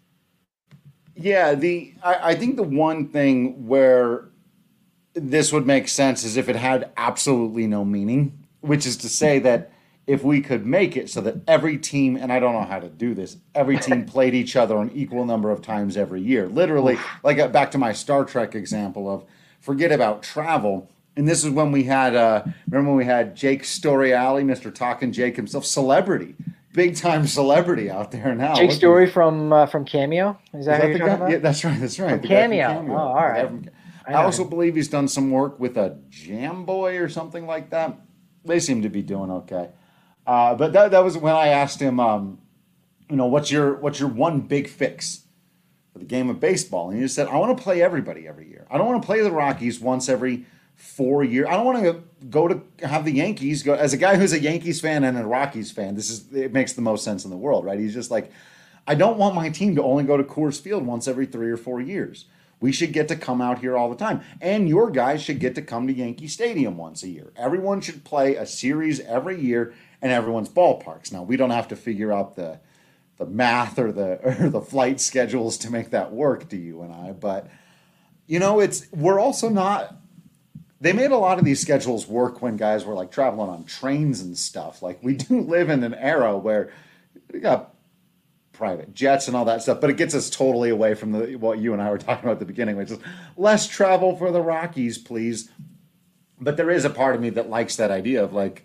Yeah, the I, I think the one thing where this would make sense is if it had absolutely no meaning, which is to say that if we could make it so that every team, and I don't know how to do this, every team played each other an equal number of times every year. Literally, like uh, back to my Star Trek example of forget about travel. And this is when we had, uh, remember when we had Jake Story-Alley, Mister Talking Jake himself, celebrity, big time celebrity out there now. Jake Look, Story from uh, from Cameo. Is that, is that who you're the talking guy? about? Yeah, that's right. That's right. From The guy from Cameo. Oh, all right. The guy from- I I, know also him. believe he's done some work with a Jam Boy or something like that. They seem to be doing okay. Uh, but that that was when I asked him, um, you know, what's your what's your one big fix for the game of baseball? And he just said, I want to play everybody every year. I don't want to play the Rockies once every four years. I don't want to go to have the Yankees go. As a guy who's a Yankees fan and a Rockies fan, this is it makes the most sense in the world, right? He's just like, I don't want my team to only go to Coors Field once every three or four years. We should get to come out here all the time. And your guys should get to come to Yankee Stadium once a year. Everyone should play a series every year in everyone's ballparks. Now, we don't have to figure out the the math or the or the flight schedules to make that work to you and I. But, you know, it's we're also not – they made a lot of these schedules work when guys were, like, traveling on trains and stuff. Like, we do live in an era where we got – private jets and all that stuff, but it gets us totally away from the what you and I were talking about at the beginning, which is less travel for the Rockies, please. But there is a part of me that likes that idea of like,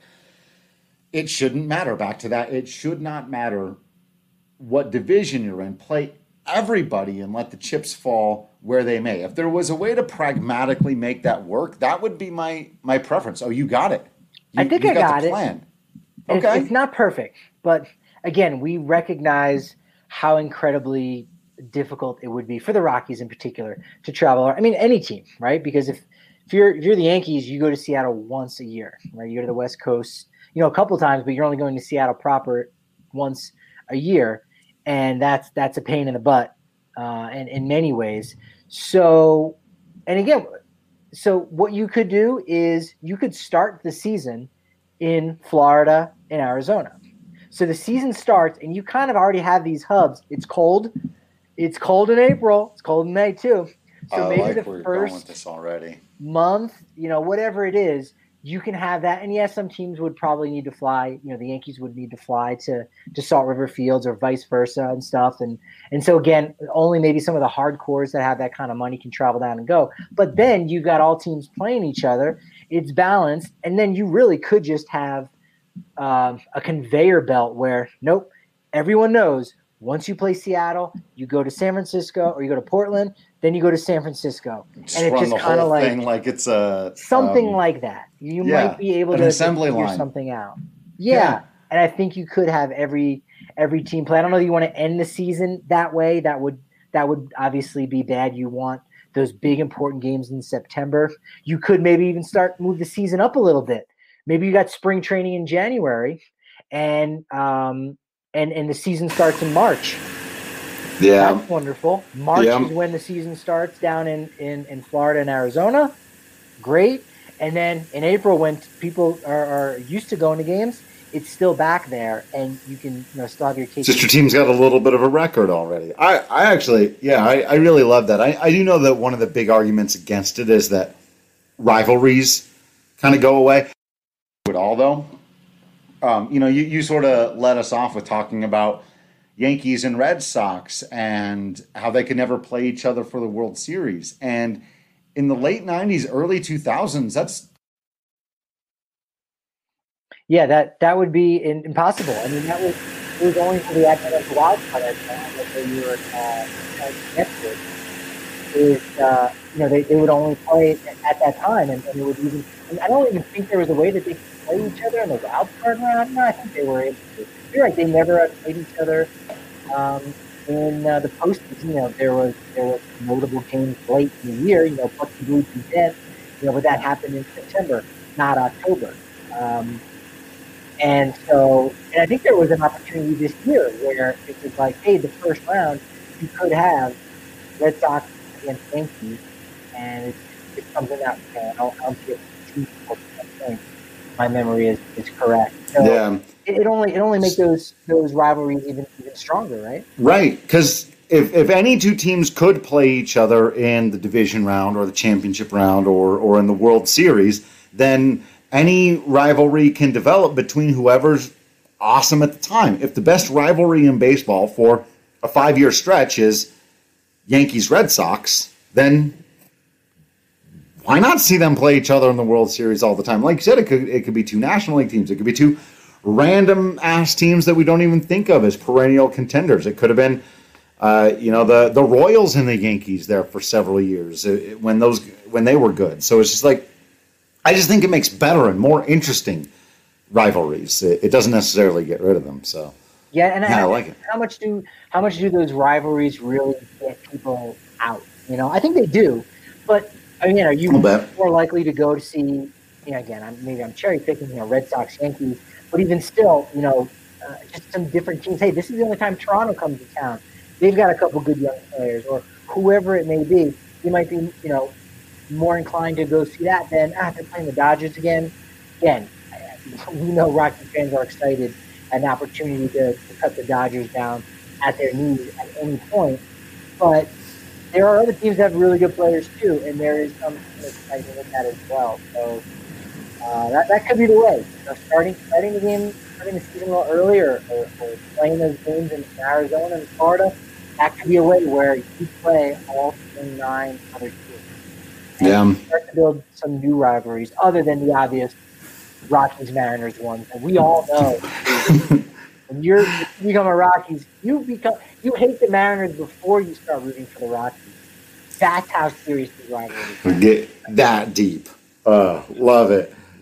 it shouldn't matter. Back to that, it should not matter what division you're in. Play everybody and let the chips fall where they may. If there was a way to pragmatically make that work, that would be my my preference. Oh, you got it. You, I think you I got, got the it. plan. It's, Okay. it's not perfect, but again, we recognize how incredibly difficult it would be for the Rockies in particular to travel. I mean, any team, right? Because if if you're if you're the Yankees, you go to Seattle once a year, right? You go to the West Coast, you know, a couple times, but you're only going to Seattle proper once a year, and that's that's a pain in the butt, uh, and in many ways. So, and again, so what you could do is you could start the season in Florida and Arizona. So the season starts, and you kind of already have these hubs. It's cold. It's cold in April. It's cold in May too. So I maybe like the where you're going with first this already. month, you know, whatever it is, you can have that. And yes, some teams would probably need to fly. You know, the Yankees would need to fly to to Salt River Fields or vice versa and stuff. And and so again, only maybe some of the hardcores that have that kind of money can travel down and go. But then you got all teams playing each other. It's balanced, and then you really could just have um, a conveyor belt where nope, everyone knows. Once you play Seattle, you go to San Francisco or you go to Portland, then you go to San Francisco. Just and it's run just the kind of whole like thing like it's a something um, like that. You yeah, might be able an to assembly figure line. something out. Yeah. Yeah. And I think you could have every every team play. I don't know that you want to end the season that way. That would that would obviously be bad. You want those big important games in September. You could maybe even start move the season up a little bit. Maybe you got spring training in January and um and and the season starts in March. Yeah. That's wonderful. March Yeah. is when the season starts down in, in, in Florida and Arizona. Great. And then in April, when people are, are used to going to games, it's still back there, and you can you know still have your case. Sister team's got a little bit of a record already. I, I actually, yeah, I, I really love that. I, I do know that one of the big arguments against it is that rivalries kind of go away. At all, though, um, you know, you, you sort of let us off with talking about Yankees and Red Sox and how they could never play each other for the World Series. And in the late nineties, early two thousands, that's yeah, that that would be in, impossible. I mean, that was it was only for the advent of the wild card at that you were uh, connected. Is uh, you know they, they would only play at that time, and, and it would even. I don't even think there was a way that they could play each other in the wild card round. No, I think they were able to. You're right; they never had played each other um, in uh, the postseason. You know, there was there was notable games late in the year. You know, Bucky Blues and Dent. You know, but that happened in September, not October. Um, and so, and I think there was an opportunity this year where it was like, hey, the first round you could have Red Sox against Yankees, and it's, it's something that you know, I'll, I'll get two points. My memory is, is correct. So yeah, it, it only it only makes those those rivalries even even stronger, right? right. Because if if any two teams could play each other in the division round or the championship round or or in the World Series, then any rivalry can develop between whoever's awesome at the time. If the best rivalry in baseball for a five-year stretch is Yankees-Red Sox, then why not see them play each other in the World Series all the time? Like you said, it could it could be two National League teams. It could be two random-ass teams that we don't even think of as perennial contenders. It could have been, uh, you know, the the Royals and the Yankees there for several years uh, when those when they were good. So it's just like, I just think it makes better and more interesting rivalries. It, it doesn't necessarily get rid of them. So yeah, and yeah, I, I like it. How much do how much do those rivalries really get people out? You know, I think they do, but I mean, are you more likely to go to see? You know, again, I'm, maybe I'm cherry picking, you know, Red Sox, Yankees, but even still, you know, uh, just some different teams. Hey, this is the only time Toronto comes to town. They've got a couple good young players, or whoever it may be. You might be, you know, more inclined to go see that than ah, they're playing the Dodgers again. Again, we know Rocky fans are excited at an opportunity to, to cut the Dodgers down at their knees at any point. But there are other teams that have really good players too, and there is some excitement in that as well. So uh, that that could be the way. You know, starting starting the game, starting the season a little earlier, or, or playing those games in Arizona and Florida. That could be a way where you play all twenty-nine other teams. And Yeah. start to build some new rivalries other than the obvious Rockies Mariners ones. And we all know when you're you become a Rockies, you become you hate the Mariners before you start rooting for the Rockies. That's how serious the rivalry is. Get that deep. Uh, love it.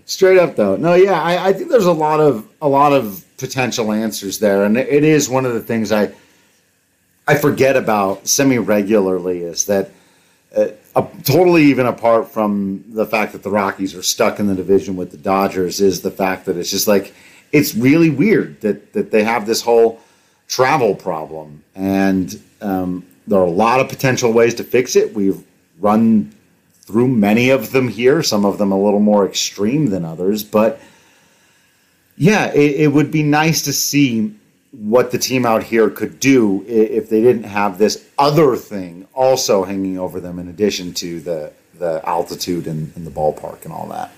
Straight up though. No, yeah, I, I think there's a lot of a lot of potential answers there, and it is one of the things I I forget about semi-regularly is that uh, uh, totally even apart from the fact that the Rockies are stuck in the division with the Dodgers is the fact that it's just like it's really weird that that they have this whole travel problem, and um, there are a lot of potential ways to fix it. We've run through many of them here, some of them a little more extreme than others. But yeah, it, it would be nice to see what the team out here could do if they didn't have this other thing also hanging over them in addition to the, the altitude and, and the ballpark and all that.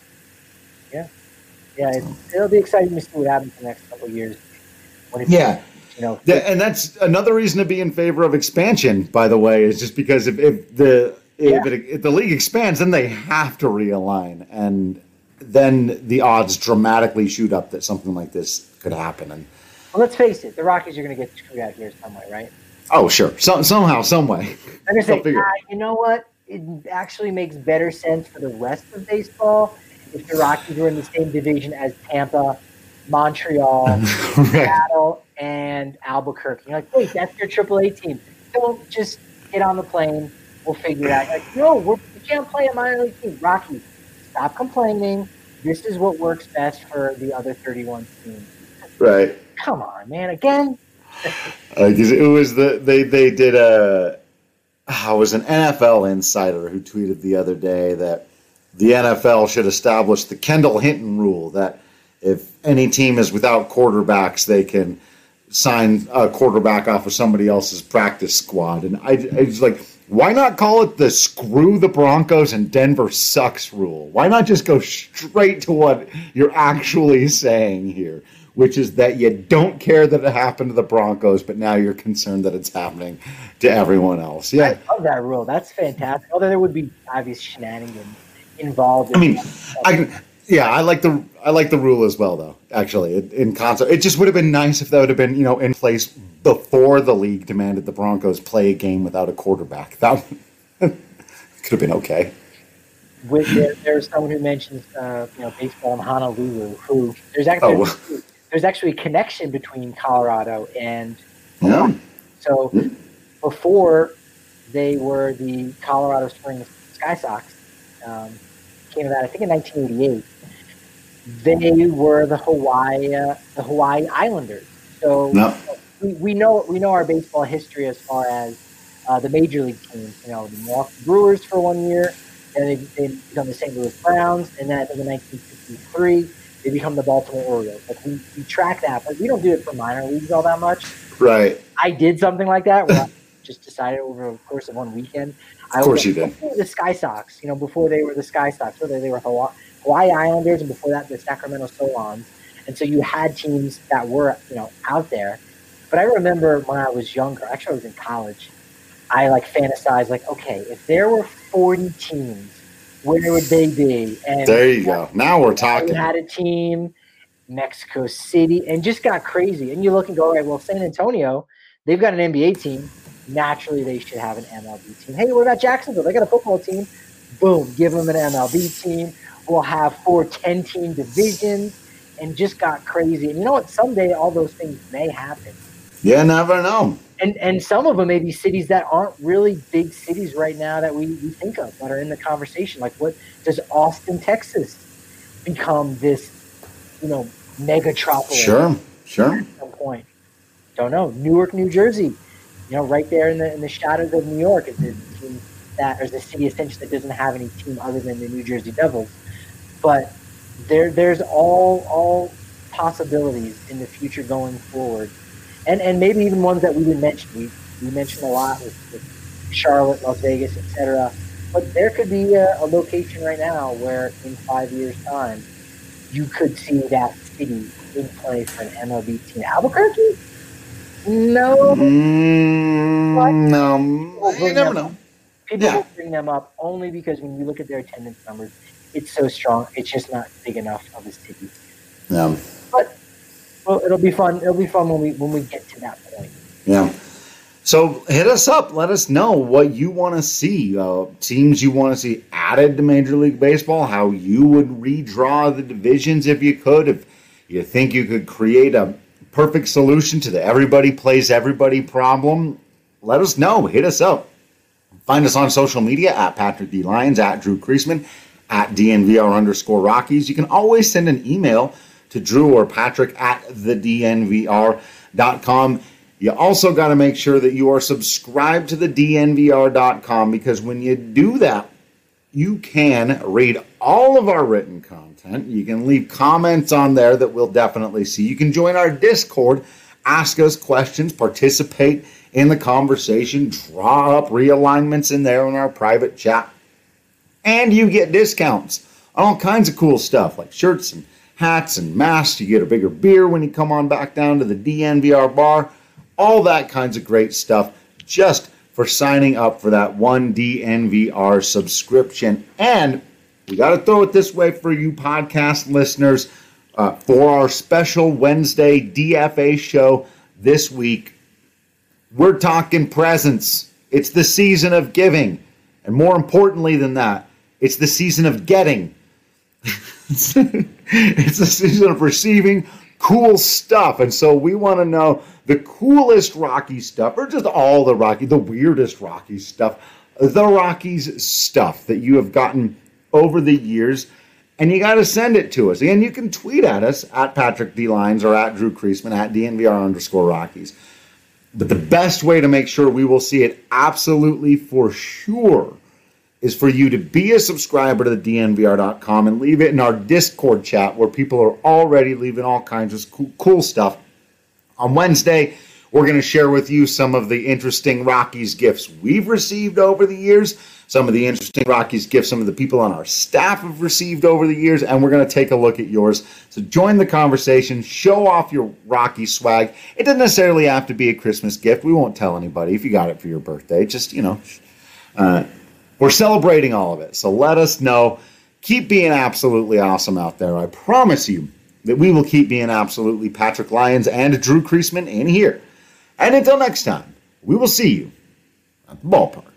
Yeah. Yeah, it's, it'll be exciting to see what happens in the next couple of years. When it, yeah. You know, yeah, and that's another reason to be in favor of expansion, by the way, is just because if, if the if, yeah. it, if the league expands, then they have to realign, and then the odds dramatically shoot up that something like this could happen. And well, let's face it, the Rockies are going to get screwed out here some way, right? Oh, sure. So, somehow, some way. I'm going to say, ah, you know what? It actually makes better sense for the rest of baseball if the Rockies were in the same division as Tampa, Montreal, right. Seattle, and Albuquerque. You're like, wait, that's your triple A team. Don't just get on the plane. We'll figure it out. You're like, no, we're, we can't play a minor league team. Rockies, stop complaining. This is what works best for the other thirty-one teams. Right. Come on, man. Again? uh, it was the they they did a oh, it was an N F L insider who tweeted the other day that the N F L should establish the Kendall Hinton rule that if any team is without quarterbacks, they can sign a quarterback off of somebody else's practice squad. And I, I was like, why not call it the screw the Broncos and Denver sucks rule? Why not just go straight to what you're actually saying here, which is that you don't care that it happened to the Broncos, but now you're concerned that it's happening to everyone else. Yeah, I love that rule. That's fantastic. Although there would be obvious shenanigans involved. In I mean, I can. Yeah, I like the I like the rule as well, though. Actually, in, in concert, it just would have been nice if that would have been you know in place before the league demanded the Broncos play a game without a quarterback. That could have been okay. With there, there's someone who mentions uh, you know baseball in Honolulu. Who there's actually oh. there's actually a connection between Colorado and yeah. So yeah. before they were the Colorado Springs Sky Sox. Um, came about I think in nineteen eighty-eight. They were the Hawaii uh, the Hawaii Islanders. So no. we, we know we know our baseball history as far as uh, the major league teams. You know, the Milwaukee Brewers for one year, and they, they become the Saint Louis Browns, and then I think in nineteen sixty-three they become the Baltimore Orioles. Like we, we track that, but we don't do it for minor leagues all that much. Right. I did something like that where I just decided over the course of one weekend. Of course you did. The Sky Sox, you know, before they were the Sky Sox, whether they were Hawaii, Hawaii Islanders, and before that the Sacramento Solons. And so you had teams that were, you know, out there. But I remember when I was younger, actually I was in college, I like fantasized like, okay, if there were forty teams, where would they be? And there you go. Now we're talking. We had a team, Mexico City, and just got crazy. And you look and go, all right, well, San Antonio, they've got an N B A team. Naturally, they should have an M L B team. Hey, what about Jacksonville? They got a football team. Boom, give them an M L B team. We'll have four ten-team divisions, and just got crazy. And you know what? Someday all those things may happen. You never know. And and some of them may be cities that aren't really big cities right now that we, we think of, that are in the conversation. Like, what does Austin, Texas become this, you know, megatropolis? Sure, sure. At some point. Don't know. Newark, New Jersey. You know, right there in the in the shadows of New York is the team that, or the city essentially that doesn't have any team other than the New Jersey Devils. But there there's all all possibilities in the future going forward, and and maybe even ones that we didn't mention. We we mentioned a lot with, with Charlotte, Las Vegas, et cetera. But there could be a, a location right now where in five years' time you could see that city in play for an M L B team. Albuquerque. No. Mm, no. You never know. People yeah. will bring them up only because when you look at their attendance numbers, it's so strong. It's just not big enough of a city. Yeah. But well, it'll be fun. It'll be fun when we when we get to that point. Yeah. So hit us up. Let us know what you want to see. Uh, teams you want to see added to Major League Baseball, how you would redraw the divisions if you could, if you think you could create a perfect solution to the everybody plays everybody problem. Let us know. Hit us up. Find us on social media at Patrick D. Lyons, at Drew Creasman, at D N V R underscore Rockies. You can always send an email to Drew or Patrick at the D N V R dot com. You also got to make sure that you are subscribed to the D N V R dot com, because when you do that, you can read all of our written content. You can leave comments on there that we'll definitely see. You can join our Discord, ask us questions, participate in the conversation, draw up realignments in there in our private chat. And you get discounts on all kinds of cool stuff like shirts and hats and masks. You get a bigger beer when you come on back down to the D N V R bar. All that kinds of great stuff just for signing up for that one D N V R subscription. And we got to throw it this way for you podcast listeners. Uh, for our special Wednesday D F A show this week, we're talking presents. It's the season of giving. And more importantly than that, it's the season of getting. It's the season of receiving cool stuff. And so we want to know the coolest Rocky stuff, or just all the Rocky, the weirdest Rocky stuff, the Rockies stuff that you have gotten over the years. And you got to send it to us. Again, you can tweet at us at Patrick D. Lyons or at Drew Creasman at D N V R underscore Rockies. But the best way to make sure we will see it absolutely for sure is for you to be a subscriber to the D N V R dot com and leave it in our Discord chat, where people are already leaving all kinds of cool, cool stuff. On Wednesday, we're going to share with you some of the interesting Rockies gifts we've received over the years, some of the interesting Rockies gifts some of the people on our staff have received over the years, and we're going to take a look at yours. So join the conversation, show off your Rocky swag. It doesn't necessarily have to be a Christmas gift. We won't tell anybody if you got it for your birthday. Just, you know, uh, we're celebrating all of it. So let us know. Keep being absolutely awesome out there. I promise you that we will keep being absolutely Patrick Lyons and Drew Creasman in here. And until next time, we will see you at the ballpark.